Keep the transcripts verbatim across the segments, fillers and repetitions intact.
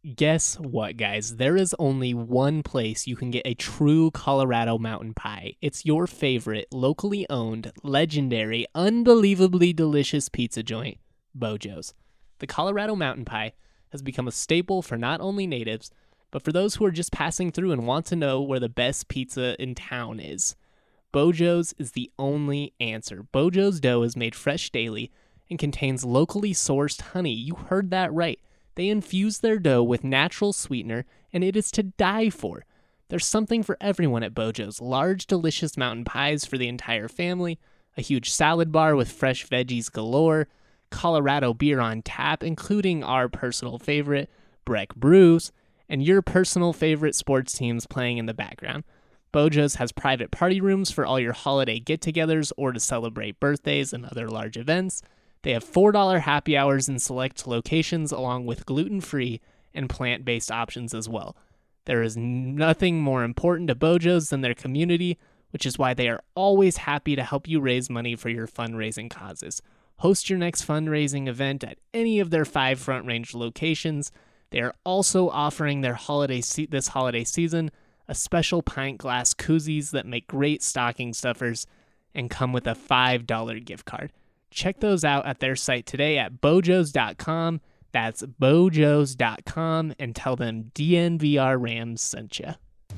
Guess what, guys? There is only one place you can get a true Colorado mountain pie. It's your favorite, locally owned, legendary, unbelievably delicious pizza joint, Bojo's. The Colorado mountain pie has become a staple for not only natives, but for those who are just passing through and want to know where the best pizza in town is. Bojo's is the only answer. Bojo's dough is made fresh daily and contains locally sourced honey. You heard that right. They infuse their dough with natural sweetener, and it is to die for. There's something for everyone at Bojo's. Large, delicious mountain pies for the entire family, a huge salad bar with fresh veggies galore, Colorado beer on tap, including our personal favorite, Breck Brews, and your personal favorite sports teams playing in the background. Bojo's has private party rooms for all your holiday get-togethers or to celebrate birthdays and other large events. They have four dollars happy hours in select locations along with gluten-free and plant-based options as well. There is nothing more important to Bojo's than their community, which is why they are always happy to help you raise money for your fundraising causes. Host your next fundraising event at any of their five Front Range locations. They are also offering their holiday se- this holiday season a special pint glass koozies that make great stocking stuffers and come with a five dollars gift card. Check those out at their site today at bojos dot com. That's bojos dot com, and tell them D N V R Rams sent you.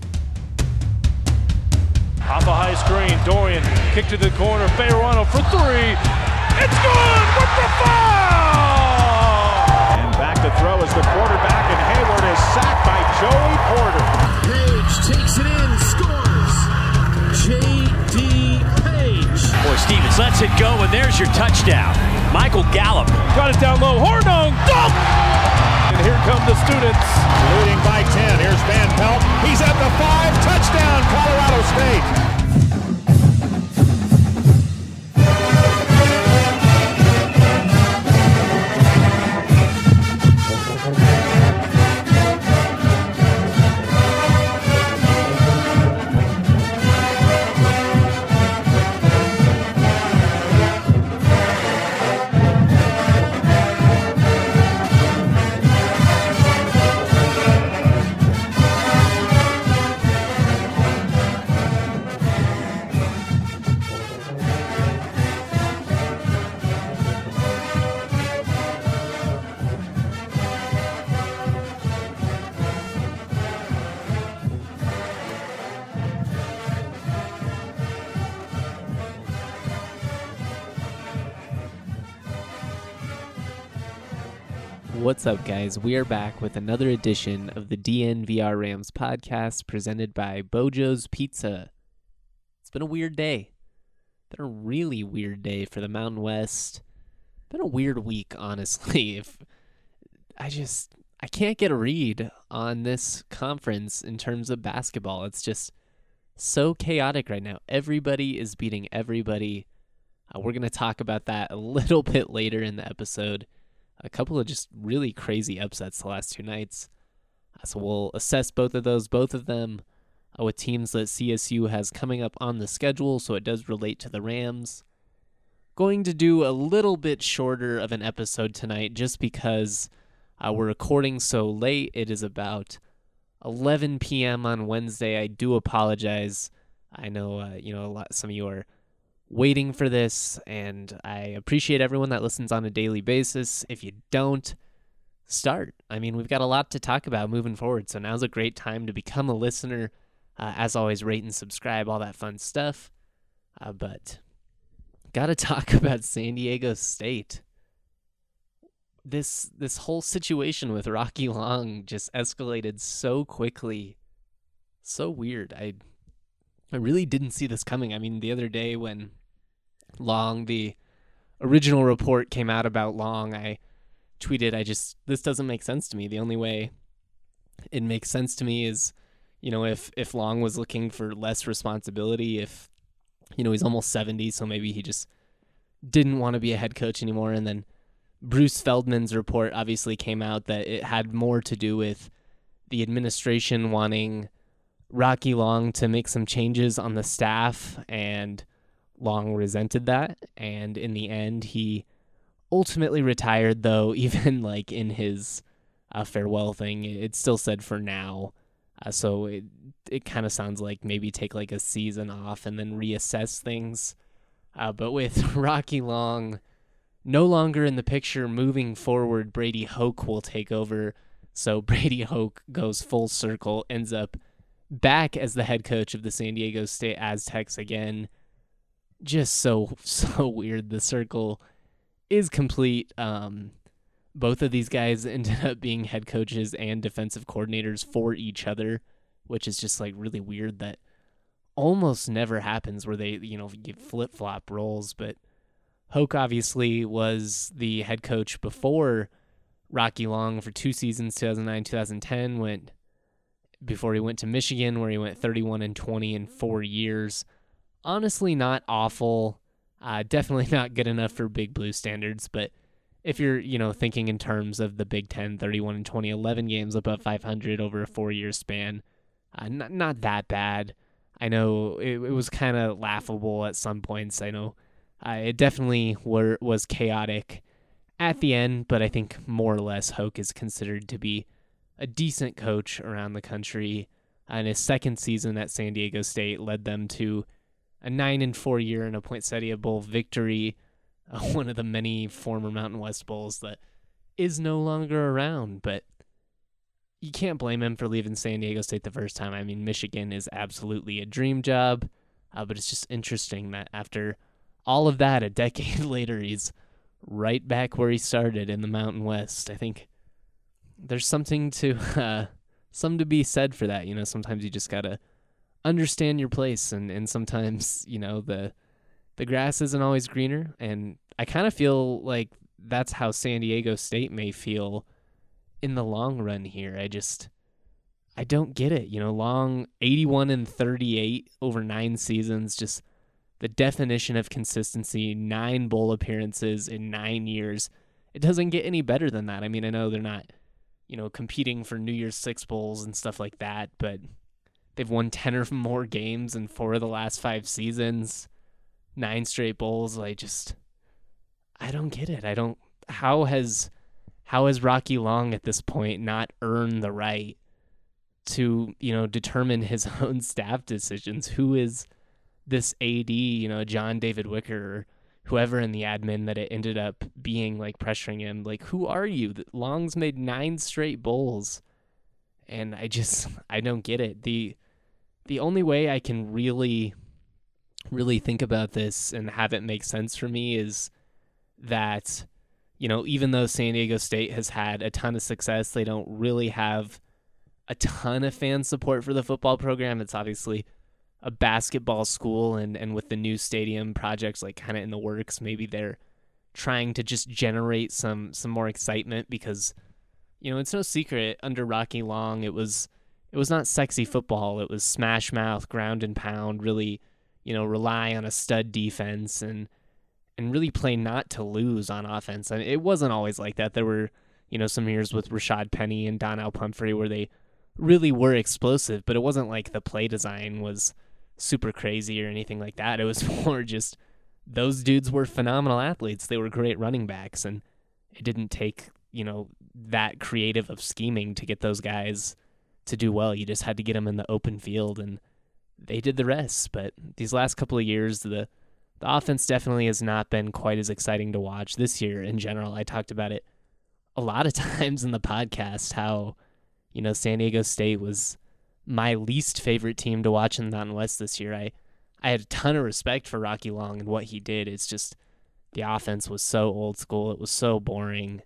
Off a high screen, Dorian kick to the corner, Fayerano for three. It's good with the foul! And back to throw is the quarterback, and Hayward is sacked by Joey Porter. Page takes it in, scores. J D Boy, Stevens lets it go, and there's your touchdown. Michael Gallup. Got it down low. Hornung. Dunk! And here come the students. Leading by ten. Here's Van Pelt. He's at the five. Touchdown, Colorado State. What's up, guys? We are back with another edition of the D N V R Rams podcast presented by Bojo's Pizza. It's been a weird day. Been a really weird day for the Mountain West. Been a weird week, honestly. If I just I can't get a read on this conference in terms of basketball. It's just so chaotic right now. Everybody is beating everybody. Uh, we're going to talk about that a little bit later in the episode. A couple of just really crazy upsets the last two nights. Uh, so we'll assess both of those, both of them, uh, with teams that C S U has coming up on the schedule, so it does relate to the Rams. Going to do a little bit shorter of an episode tonight just because uh, we're recording so late. It is about eleven p.m. on Wednesday. I do apologize. I know, uh, you know, a lot. Some of you are waiting for this, and I appreciate everyone that listens on a daily basis. If you don't, start. I mean, we've got a lot to talk about moving forward, so now's a great time to become a listener. Uh, as always, rate and subscribe, all that fun stuff. Uh, but got to talk about San Diego State. This this whole situation with Rocky Long just escalated so quickly. So weird. I I really didn't see this coming. I mean, the other day when Long, the original report came out about Long, I tweeted, I just, this doesn't make sense to me. The only way it makes sense to me is, you know, if, if Long was looking for less responsibility, if, you know, he's almost seventy, so maybe he just didn't want to be a head coach anymore. And then Bruce Feldman's report obviously came out that it had more to do with the administration wanting Rocky Long to make some changes on the staff, and Long resented that. And in the end, he ultimately retired, though, even like in his uh, farewell thing. It still said for now. Uh, so it it kind of sounds like maybe take like a season off and then reassess things. Uh, but with Rocky Long no longer in the picture moving forward, Brady Hoke will take over. So Brady Hoke goes full circle, ends up back as the head coach of the San Diego State Aztecs again. Just so, so weird. The circle is complete. Um, both of these guys ended up being head coaches and defensive coordinators for each other, which is just like really weird. That almost never happens where they, you know, get flip-flop roles. But Hoke obviously was the head coach before Rocky Long for two seasons, two thousand nine, two thousand ten, went before he went to Michigan, where he went thirty-one and twenty in four years. Honestly, not awful. Uh, definitely not good enough for Big Blue standards, but if you're, you know, thinking in terms of the Big Ten, thirty-one and twenty, eleven games above five hundred over a four-year span, uh, not not that bad. I know it, it was kind of laughable at some points. I know uh, it definitely were, was chaotic at the end, but I think more or less Hoke is considered to be a decent coach around the country. And his second season at San Diego State led them to a nine and four year in a Poinsettia Bowl victory, uh, one of the many former Mountain West Bowls that is no longer around. But you can't blame him for leaving San Diego State the first time. I mean, Michigan is absolutely a dream job, uh, but it's just interesting that after all of that, a decade later, he's right back where he started in the Mountain West. I think there's something to uh, some to be said for that. You know, sometimes you just gotta understand your place, and, and sometimes, you know, the the grass isn't always greener. And I kind of feel like that's how San Diego State may feel in the long run here. I just I don't get it. You know, Long eighty-one and thirty-eight over nine seasons, just the definition of consistency, nine bowl appearances in nine years. It doesn't get any better than that. I mean, I know they're not, you know, competing for New Year's Six bowls and stuff like that, but they've won ten or more games in four of the last five seasons, nine straight bowls. I just, I don't get it. I don't, how has, how has Rocky Long at this point not earned the right to, you know, determine his own staff decisions? Who is this A D, you know, John David Wicker or whoever in the admin that it ended up being, like, pressuring him? Like, who are you? Long's made nine straight bowls, and I just, I don't get it. The the only way I can really, really think about this and have it make sense for me is that, you know, even though San Diego State has had a ton of success, they don't really have a ton of fan support for the football program. It's obviously a basketball school, and, and with the new stadium projects like kind of in the works, maybe they're trying to just generate some some more excitement, because, you know, it's no secret under Rocky Long it was it was not sexy football. It was smash mouth, ground and pound, really, you know, rely on a stud defense and and really play not to lose on offense. And it wasn't always like that. There were, you know, some years with Rashad Penny and Donnell Pumphrey where they really were explosive, but it wasn't like the play design was super crazy or anything like that. It was more just those dudes were phenomenal athletes. They were great running backs, and it didn't take, you know, that creative of scheming to get those guys to do well. You just had to get them in the open field, and they did the rest. But these last couple of years, the the offense definitely has not been quite as exciting to watch. This year in general, I talked about it a lot of times in the podcast, how, you know, San Diego State was my least favorite team to watch in the Mountain West this year. I, I had a ton of respect for Rocky Long and what he did. It's just the offense was so old school. It was so boring.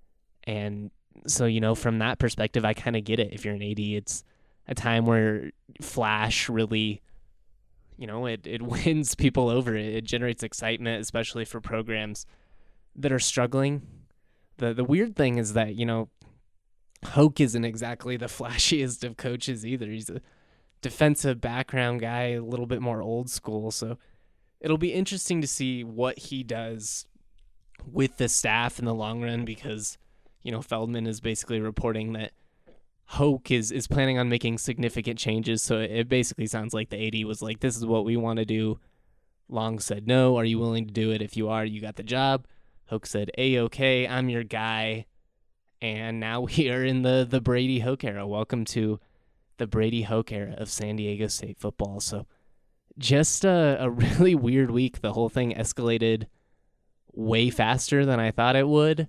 And so, you know, from that perspective, I kind of get it. If you're an A D, it's a time where flash really, you know, it, it wins people over. It, it generates excitement, especially for programs that are struggling. The The weird thing is that, you know, Hoke isn't exactly the flashiest of coaches either. He's a defensive background guy, a little bit more old school. So it'll be interesting to see what he does with the staff in the long run, because, you know, Feldman is basically reporting that Hoke is, is planning on making significant changes. So it basically sounds like the A D was like, this is what we want to do. Long said, no. Are you willing to do it? If you are, you got the job. Hoke said, A-okay, I'm your guy. And now we are in the, the Brady Hoke era. Welcome to the Brady Hoke era of San Diego State football. So just a, a really weird week. The whole thing escalated way faster than I thought it would.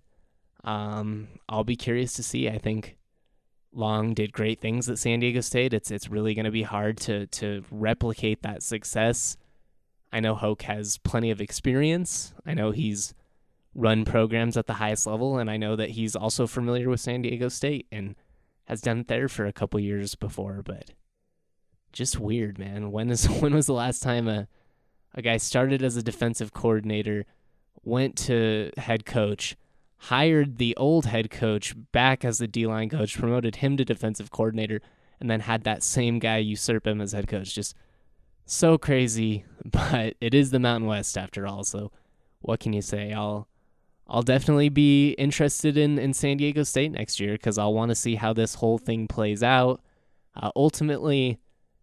Um, I'll be curious to see. I think Long did great things at San Diego State. It's it's really going to be hard to to replicate that success. I know Hoke has plenty of experience. I know he's run programs at the highest level, and I know that he's also familiar with San Diego State and has done it there for a couple years before, but just weird, man. When is when was the last time a a guy started as a defensive coordinator, went to head coach, hired the old head coach back as the D-line coach, promoted him to defensive coordinator, and then had that same guy usurp him as head coach? Just so crazy, but it is the Mountain West after all, so what can you say? I'll I'll definitely be interested in, in San Diego State next year because I'll want to see how this whole thing plays out. Uh, ultimately,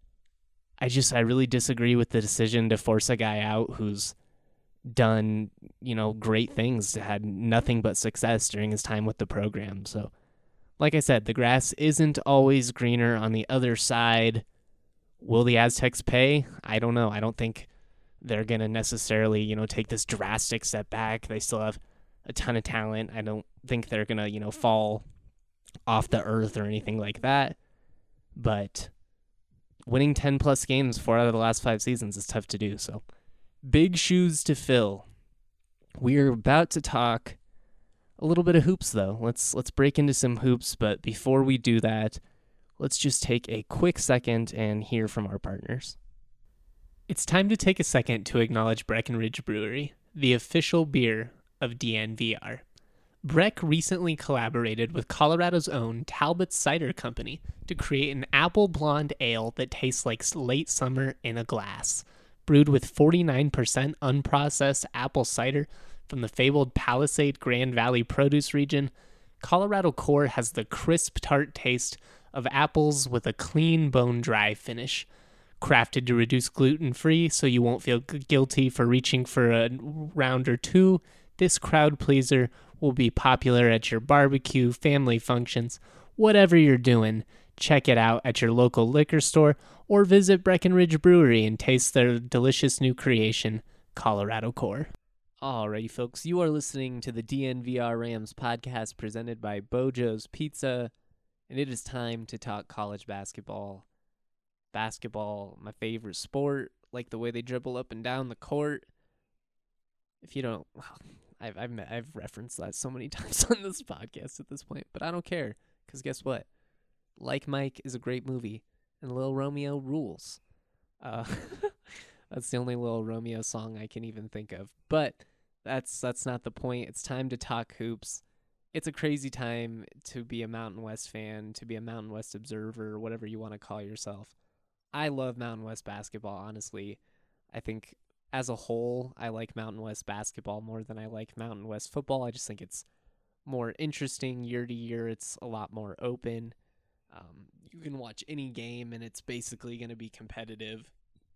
I just I really disagree with the decision to force a guy out who's done, you know, great things, had nothing but success during his time with the program. So, like I said, the grass isn't always greener on the other side. Will the Aztecs pay? I don't know. I don't think they're going to necessarily, you know, take this drastic step back. They still have a ton of talent. I don't think they're going to, you know, fall off the earth or anything like that. But winning ten plus games, four out of the last five seasons, is tough to do. So big shoes to fill. We're about to talk a little bit of hoops, though. Let's let's break into some hoops. But before we do that, let's just take a quick second and hear from our partners. It's time to take a second to acknowledge Breckenridge Brewery, the official beer of D N V R. Breck recently collaborated with Colorado's own Talbot's Cider Company to create an apple blonde ale that tastes like late summer in a glass. Brewed with forty-nine percent unprocessed apple cider from the fabled Palisade Grand Valley produce region, Colorado Core has the crisp, tart taste of apples with a clean, bone-dry finish. Crafted to reduce gluten-free so you won't feel guilty for reaching for a round or two, this crowd pleaser will be popular at your barbecue, family functions, whatever you're doing. Check it out at your local liquor store or visit Breckenridge Brewery and taste their delicious new creation, Colorado Core. Alrighty, folks, you are listening to the D N V R Rams podcast presented by Bojo's Pizza, and it is time to talk college basketball. Basketball, my favorite sport, like the way they dribble up and down the court. If you don't, well, I've I've met, I've referenced that so many times on this podcast at this point, but I don't care because guess what? Like Mike is a great movie, and Lil Romeo rules. Uh, that's the only Lil Romeo song I can even think of. But that's that's not the point. It's time to talk hoops. It's a crazy time to be a Mountain West fan, to be a Mountain West observer, whatever you want to call yourself. I love Mountain West basketball, honestly. I think as a whole, I like Mountain West basketball more than I like Mountain West football. I just think it's more interesting year to year. It's a lot more open. Um, you can watch any game, and it's basically going to be competitive.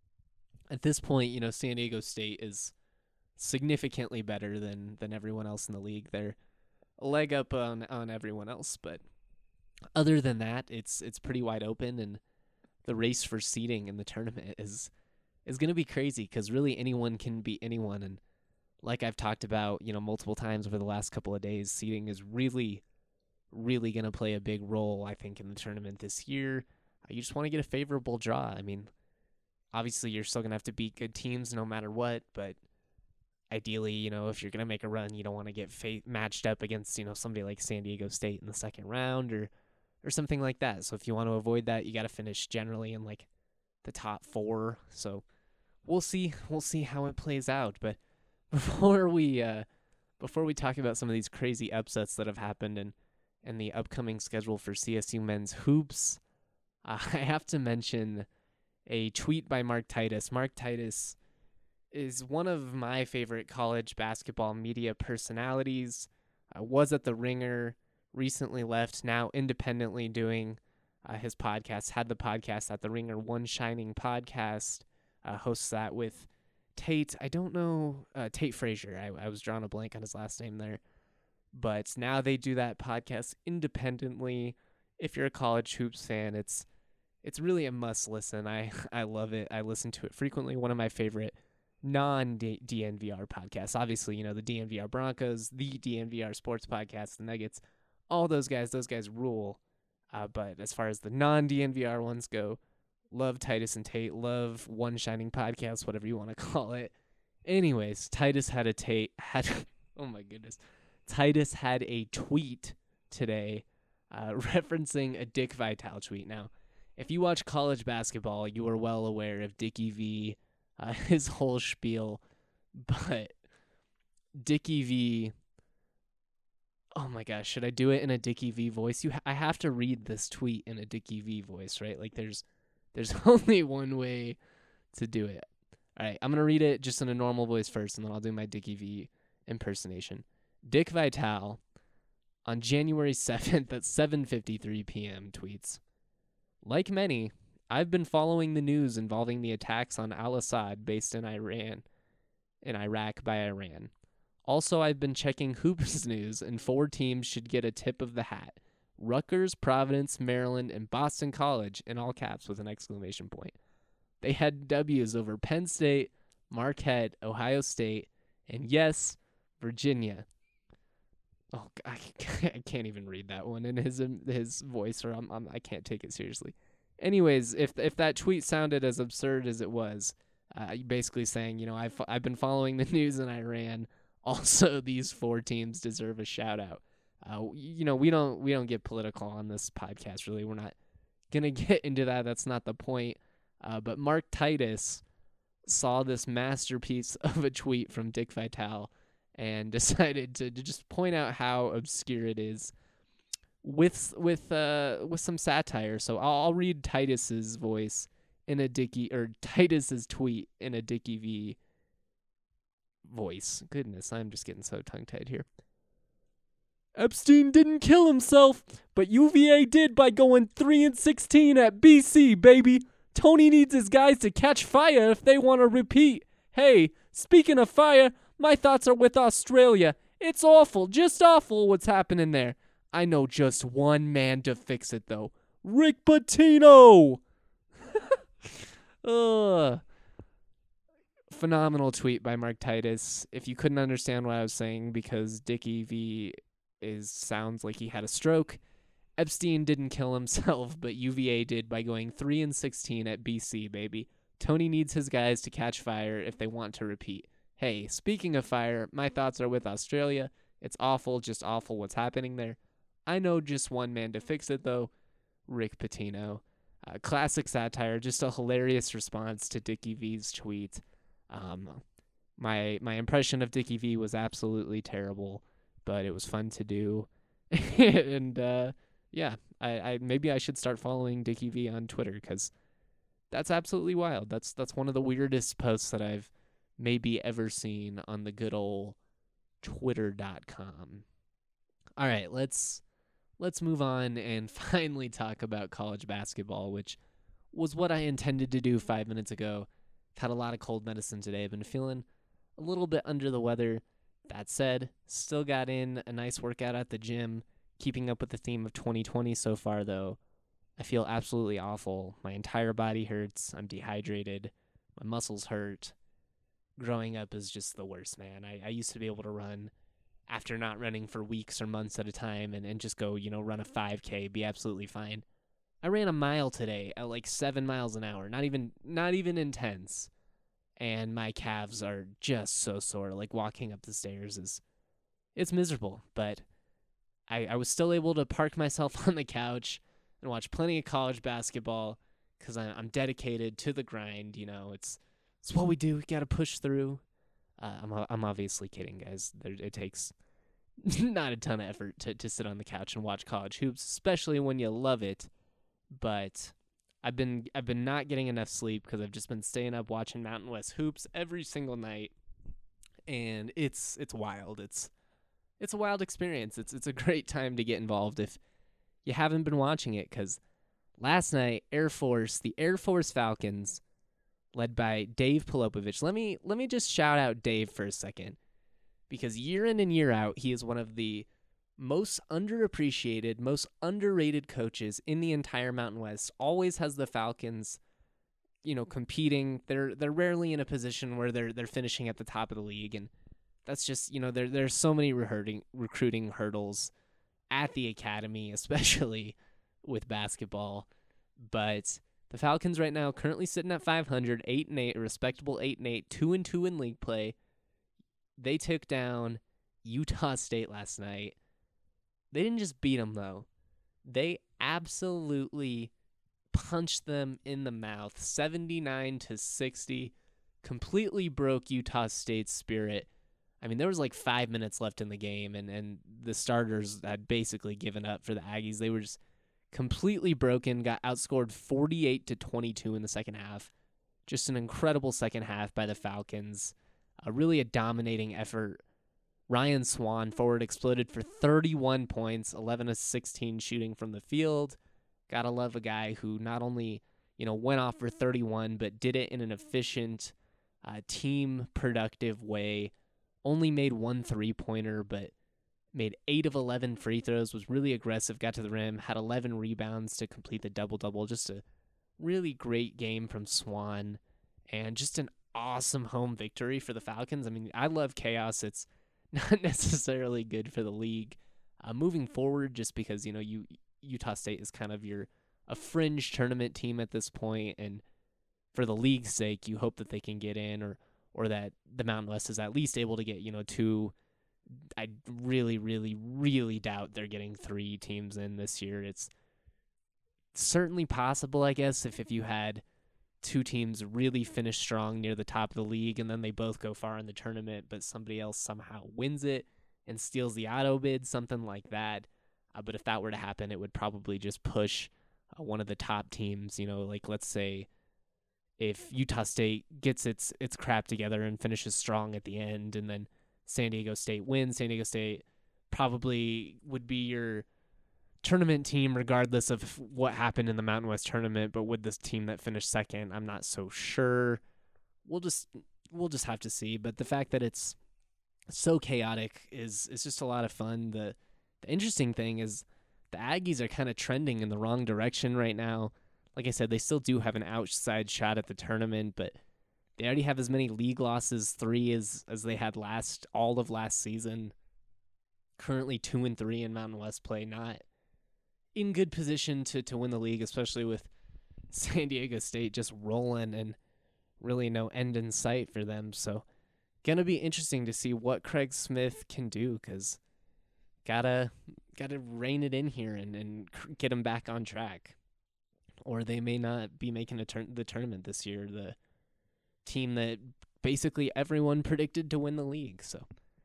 At this point, you know, San Diego State is significantly better than than everyone else in the league. They're a leg up on, on everyone else, but other than that, it's it's pretty wide open, and the race for seeding in the tournament is is going to be crazy because really anyone can beat anyone. And like I've talked about, you know, multiple times over the last couple of days, seeding is really, really going to play a big role, I think, in the tournament this year. You just want to get a favorable draw. I mean, obviously you're still going to have to beat good teams no matter what, but ideally, you know, if you're going to make a run, you don't want to get fa- matched up against, you know, somebody like San Diego State in the second round or or something like that. So if you want to avoid that, you got to finish generally in like the top four. So we'll see. We'll see how it plays out. But before we uh, before we talk about some of these crazy upsets that have happened and and the upcoming schedule for C S U men's hoops, uh, I have to mention a tweet by Mark Titus. Mark Titus is one of my favorite college basketball media personalities. I was at the Ringer, recently left, now independently doing uh, his podcast, had the podcast at the Ringer, One Shining Podcast, uh, hosts that with Tate, I don't know, uh, Tate Frazier. I, I was drawing a blank on his last name there. but now they do that podcast independently. If you're a college hoops fan, it's it's really a must listen. I, I love it. I listen to it frequently. One of my favorite non-D N V R podcasts. Obviously, you know, the D N V R Broncos, the D N V R Sports Podcast, the Nuggets, all those guys, those guys rule. Uh, but as far as the non-D N V R ones go, love Titus and Tate, love One Shining Podcast, whatever you want to call it. Anyways, Titus had a Tate, had, oh my goodness. Titus had a tweet today uh, referencing a Dick Vitale tweet. Now, if you watch college basketball, you are well aware of Dickie V, uh, his whole spiel, but Dickie V, oh my gosh, should I do it in a Dickie V voice? You, ha- I have to read this tweet in a Dickie V voice, right? Like there's, there's only one way to do it. All right, I'm going to read it just in a normal voice first, and then I'll do my Dickie V impersonation. Dick Vitale, on January seventh at seven fifty-three p.m. tweets, "Like many, I've been following the news involving the attacks on al-Assad based in Iran, in Iraq by Iran. Also, I've been checking Hoops news, and four teams should get a tip of the hat. Rutgers, Providence, Maryland, and Boston College, in all caps with an exclamation point. They had W's over Penn State, Marquette, Ohio State, and yes, Virginia." Oh, I can't even read that one in his his voice, or I'm, I'm I can't take it seriously. Anyways, if if that tweet sounded as absurd as it was, uh, basically saying, you know, I've I've been following the news in Iran. Also, these four teams deserve a shout out. Uh, you know, we don't we don't get political on this podcast. Really, we're not gonna get into that. That's not the point. Uh, but Mark Titus saw this masterpiece of a tweet from Dick Vitale and decided to, to just point out how obscure it is with with uh with some satire. So I'll, I'll read Titus's voice in a Dickie or Titus's tweet in a Dickie V voice. Goodness, I'm just getting so tongue-tied here. "Epstein didn't kill himself, but U V A did by going three and sixteen at B C, baby. Tony needs his guys to catch fire if they want to repeat. Hey, speaking of fire, my thoughts are with Australia. It's awful, just awful what's happening there. I know just one man to fix it, though. Rick Pitino!" Ugh. Phenomenal tweet by Mark Titus. If you couldn't understand what I was saying because Dickie V is sounds like he had a stroke, Epstein didn't kill himself, but U V A did by going three and sixteen at B C, baby. Tony needs his guys to catch fire if they want to repeat. Hey, speaking of fire, my thoughts are with Australia. It's awful, just awful what's happening there. I know just one man to fix it, though. Rick Pitino. Uh, classic satire, just a hilarious response to Dickie V's tweet. Um, my my impression of Dickie V was absolutely terrible, but it was fun to do. and uh, yeah, I, I maybe I should start following Dickie V on Twitter because that's absolutely wild. That's that's one of the weirdest posts that I've maybe ever seen on the good old twitter dot com. All right, let's let's move on and finally talk about college basketball, which was what I intended to do five minutes ago. I've had a lot of cold medicine today. I've been feeling a little bit under the weather. That said, still got in a nice workout at the gym, keeping up with the theme of twenty twenty so far, though. I feel absolutely awful. My entire body hurts. I'm dehydrated. My muscles hurt. Growing up is just the worst, man. I, I used to be able to run after not running for weeks or months at a time and, and just go, you know, run a five K, be absolutely fine. I ran a mile today at like seven miles an hour, not even not even intense. And my calves are just so sore. Like walking up the stairs is, it's miserable. But I, I was still able to park myself on the couch and watch plenty of college basketball because I'm dedicated to the grind. You know, it's it's what we do. We got to push through. Uh, I'm I'm obviously kidding, guys. There, it takes not a ton of effort to, to sit on the couch and watch college hoops, especially when you love it. But I've been I've been not getting enough sleep because I've just been staying up watching Mountain West hoops every single night, and it's it's wild. It's it's a wild experience. It's it's a great time to get involved if you haven't been watching it. Because last night, Air Force, the Air Force Falcons, led by Dave Polopovich. Let me let me just shout out Dave for a second, because year in and year out, he is one of the most underappreciated, most underrated coaches in the entire Mountain West, always has the Falcons, you know, competing. They're they're rarely in a position where they're they're finishing at the top of the league, and that's just, you know, there there's so many recruiting recruiting hurdles at the academy, especially with basketball. But the Falcons right now currently sitting at five hundred, eight and eight, a respectable eight and eight, two and two in league play. They took down Utah State last night. They didn't just beat them, though. They absolutely punched them in the mouth, seventy-nine to sixty. Completely broke Utah State's spirit. I mean, there was like five minutes left in the game, and, and the starters had basically given up for the Aggies. They were just completely broken, got outscored forty-eight to twenty-two in the second half. Just an incredible second half by the Falcons. Uh, really a dominating effort. Ryan Swan, forward, exploded for thirty-one points, eleven of sixteen shooting from the field. Gotta love a guy who not only, you know, went off for thirty-one, but did it in an efficient, uh, team productive way. Only made one three-pointer, but made eight of eleven free throws, was really aggressive, got to the rim, had eleven rebounds to complete the double-double. Just a really great game from Swan, and just an awesome home victory for the Falcons. I mean, I love chaos. It's not necessarily good for the league uh, moving forward, just because, you know, you Utah State is kind of your a fringe tournament team at this point, and for the league's sake, you hope that they can get in, or or that the Mountain West is at least able to get, you know, two. I really, really, really doubt they're getting three teams in this year. It's certainly possible, I guess, if, if you had two teams really finish strong near the top of the league, and then they both go far in the tournament, but somebody else somehow wins it and steals the auto bid, something like that. Uh, but if that were to happen, it would probably just push uh, one of the top teams, you know, like let's say if Utah State gets its its crap together and finishes strong at the end, and then San Diego State wins, San Diego State probably would be your tournament team regardless of what happened in the Mountain West tournament. But with this team that finished second, I'm not so sure. We'll just we'll just have to see. But the fact that it's so chaotic is is just a lot of fun. The the interesting thing is the Aggies are kind of trending in the wrong direction right now. Like I said, they still do have an outside shot at the tournament, but they already have as many league losses, three as as they had last all of last season. Currently two and three in Mountain West play, not in good position to, to win the league, especially with San Diego State just rolling and really no end in sight for them. So gonna be interesting to see what Craig Smith can do, because gotta gotta rein it in here and, and get them back on track, or they may not be making a turn the tournament this year. The team that basically everyone predicted to win the league. So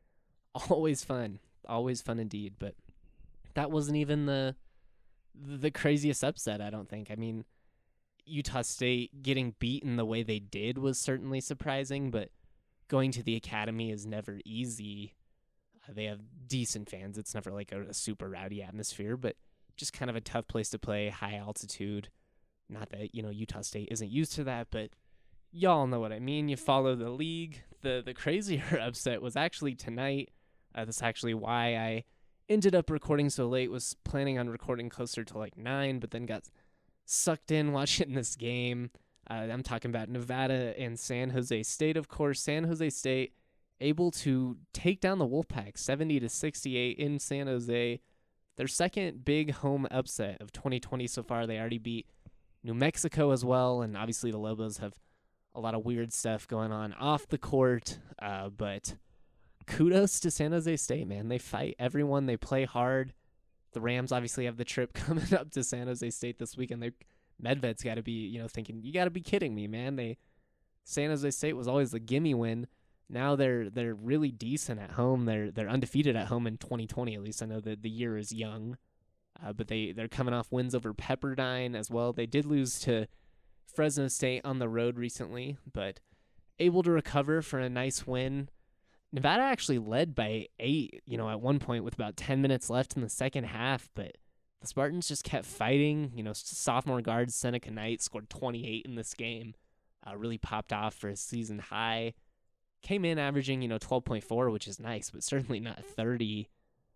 always fun, always fun indeed. But that wasn't even the the craziest upset, I don't think. I mean, Utah State getting beaten the way they did was certainly surprising, but going to the academy is never easy. Uh, they have decent fans. It's never like a, a super rowdy atmosphere, but just kind of a tough place to play, high altitude. Not that, you know, Utah State isn't used to that, but y'all know what I mean. You follow the league. The the crazier upset was actually tonight. Uh, that's actually why I ended up recording so late. Was planning on recording closer to like nine, but then got sucked in watching this game. Uh, I'm talking about Nevada and San Jose State, of course. San Jose State able to take down the Wolfpack seventy to sixty-eight in San Jose. Their second big home upset of twenty twenty so far. They already beat New Mexico as well, and obviously the Lobos have a lot of weird stuff going on off the court, uh, but kudos to San Jose State, man. They fight everyone. They play hard. The Rams obviously have the trip coming up to San Jose State this weekend. They Medved's got to be, you know, thinking, you got to be kidding me, man. They San Jose State was always the gimme win. Now they're they're really decent at home. They're they're undefeated at home in twenty twenty. At least I know that the year is young, uh, but they they're coming off wins over Pepperdine as well. They did lose to Fresno State on the road recently, but able to recover for a nice win. Nevada actually led by eight, you know, at one point with about ten minutes left in the second half, but the Spartans just kept fighting. You know, sophomore guard Seneca Knight scored twenty-eight in this game, uh, really popped off for a season high. Came in averaging, you know, twelve point four, which is nice, but certainly not thirty.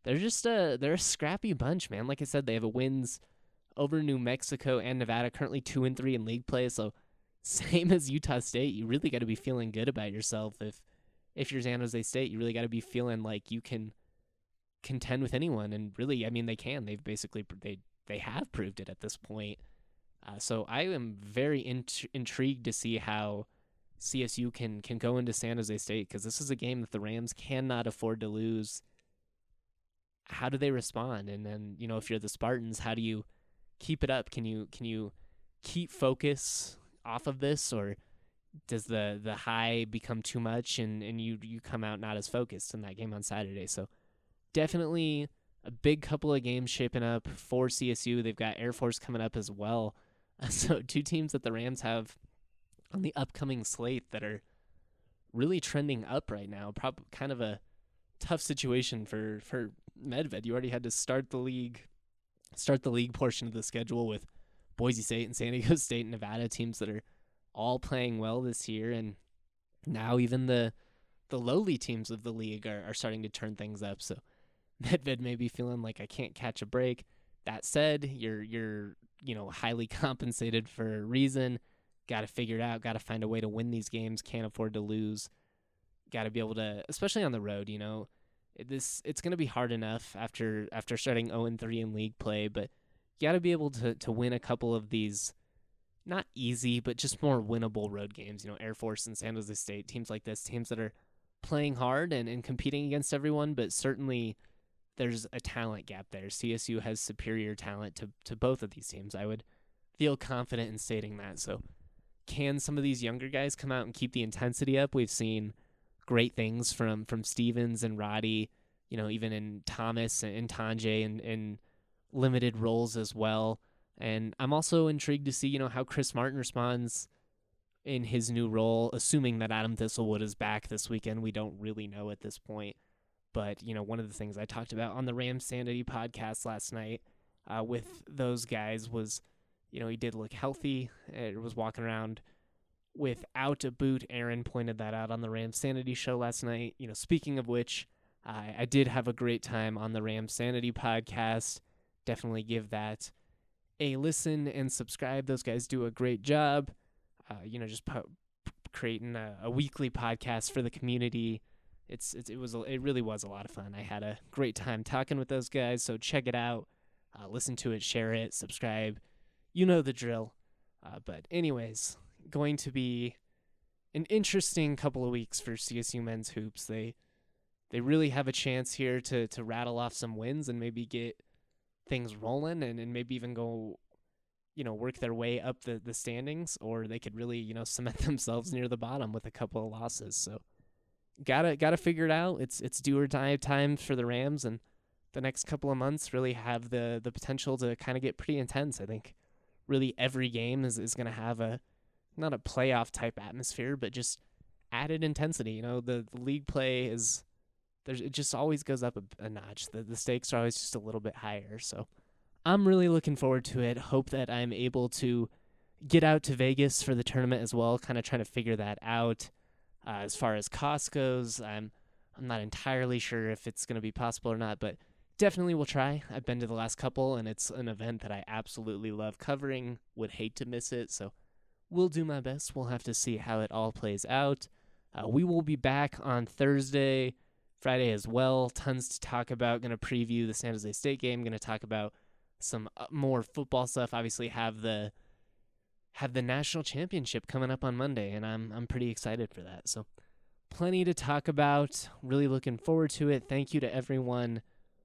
they're just a they're a scrappy bunch, man. Like I said, they have a wins over New Mexico and Nevada, currently two and three in league play. So same as Utah State, you really got to be feeling good about yourself. If if you're San Jose State, you really got to be feeling like you can contend with anyone. And really, I mean, they can. They've basically they they have proved it at this point. Uh, so I am very int- intrigued to see how C S U can can go into San Jose State, because this is a game that the Rams cannot afford to lose. How do they respond? And then, you know, if you're the Spartans, how do you keep it up? Can you can you keep focus off of this, or does the the high become too much and, and you, you come out not as focused in that game on Saturday? So definitely a big couple of games shaping up for C S U. They've got Air Force coming up as well. So two teams that the Rams have on the upcoming slate that are really trending up right now. Probably kind of a tough situation for, for Medved. You already had to start the league, start the league portion of the schedule with Boise State and San Diego State and Nevada, teams that are all playing well this year. And now even the the lowly teams of the league are, are starting to turn things up. So Medved may be feeling like, I can't catch a break. That said, you're you're you know highly compensated for a reason. Got to figure it out. Got to find a way to win these games. Can't afford to lose. Got to be able to, especially on the road. You know, it, this it's going to be hard enough after after starting oh and three in league play, but you got to be able to to win a couple of these, not easy, but just more winnable road games. You know, Air Force and San Jose State, teams like this, teams that are playing hard and, and competing against everyone, but certainly there's a talent gap there. C S U has superior talent to, to both of these teams. I would feel confident in stating that. So can some of these younger guys come out and keep the intensity up? We've seen great things from, from Stevens and Roddy, you know, even in Thomas and Tanjay and, and limited roles as well. And I'm also intrigued to see, you know, how Chris Martin responds in his new role, assuming that Adam Thistlewood is back this weekend. We don't really know at this point. But, you know, one of the things I talked about on the Rams Sanity podcast last night uh, with those guys was, you know, he did look healthy. It was walking around without a boot. Aaron pointed that out on the Rams Sanity show last night. You know, speaking of which, I, I did have a great time on the Rams Sanity podcast. Definitely give that a listen and subscribe. Those guys do a great job, uh, you know, just po- creating a, a weekly podcast for the community. It's, it's it was it really was a lot of fun. I had a great time talking with those guys, so check it out, uh, listen to it, share it, subscribe. You know the drill. Uh, but anyways, going to be an interesting couple of weeks for C S U men's hoops. They they really have a chance here to to rattle off some wins and maybe get things rolling and, and maybe even go, you know, work their way up the, the standings, or they could really, you know, cement themselves near the bottom with a couple of losses. So Gotta gotta figure it out. It's it's do or die time for the Rams, and the next couple of months really have the, the potential to kind of get pretty intense. I think really every game is, is going to have a, not a playoff type atmosphere, but just added intensity. You know, the, the league play is, there's it just always goes up a, a notch. The, the stakes are always just a little bit higher. So I'm really looking forward to it. Hope that I'm able to get out to Vegas for the tournament as well, kind of trying to figure that out. Uh, as far as cost goes, I'm I'm not entirely sure if it's going to be possible or not, but definitely will try. I've been to the last couple, and it's an event that I absolutely love covering. Would hate to miss it, so we'll do my best. We'll have to see how it all plays out. Uh, we will be back on Thursday, Friday as well. Tons to talk about. Going to preview the San Jose State game. Going to talk about some more football stuff. Obviously, have the have the national championship coming up on Monday, and I'm I'm pretty excited for that. So plenty to talk about. Really looking forward to it. Thank you to everyone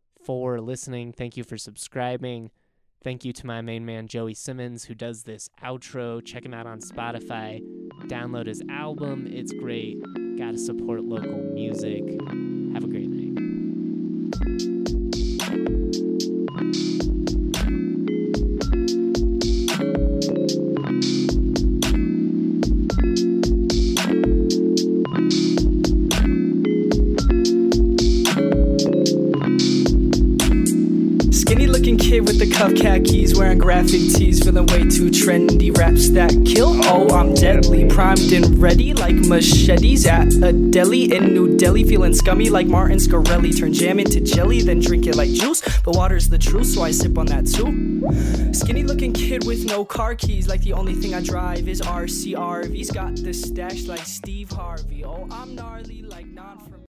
for listening. Thank you for subscribing. Thank you to my main man, Joey Simmons, who does this outro. Check him out on Spotify. Download his album. It's great. Gotta support local music. Have a great night. With the cuff khakis wearing wearing graphic tees, feeling way too trendy. Raps that kill, oh, I'm deadly. Primed and ready like machetes at a deli in New Delhi. Feeling scummy like Martin Scarelli. Turn jam into jelly, then drink it like juice. But water's the truth, so I sip on that too. Skinny looking kid with no car keys, like the only thing I drive is R C R V's. Got the stash like Steve Harvey. Oh, I'm gnarly like non from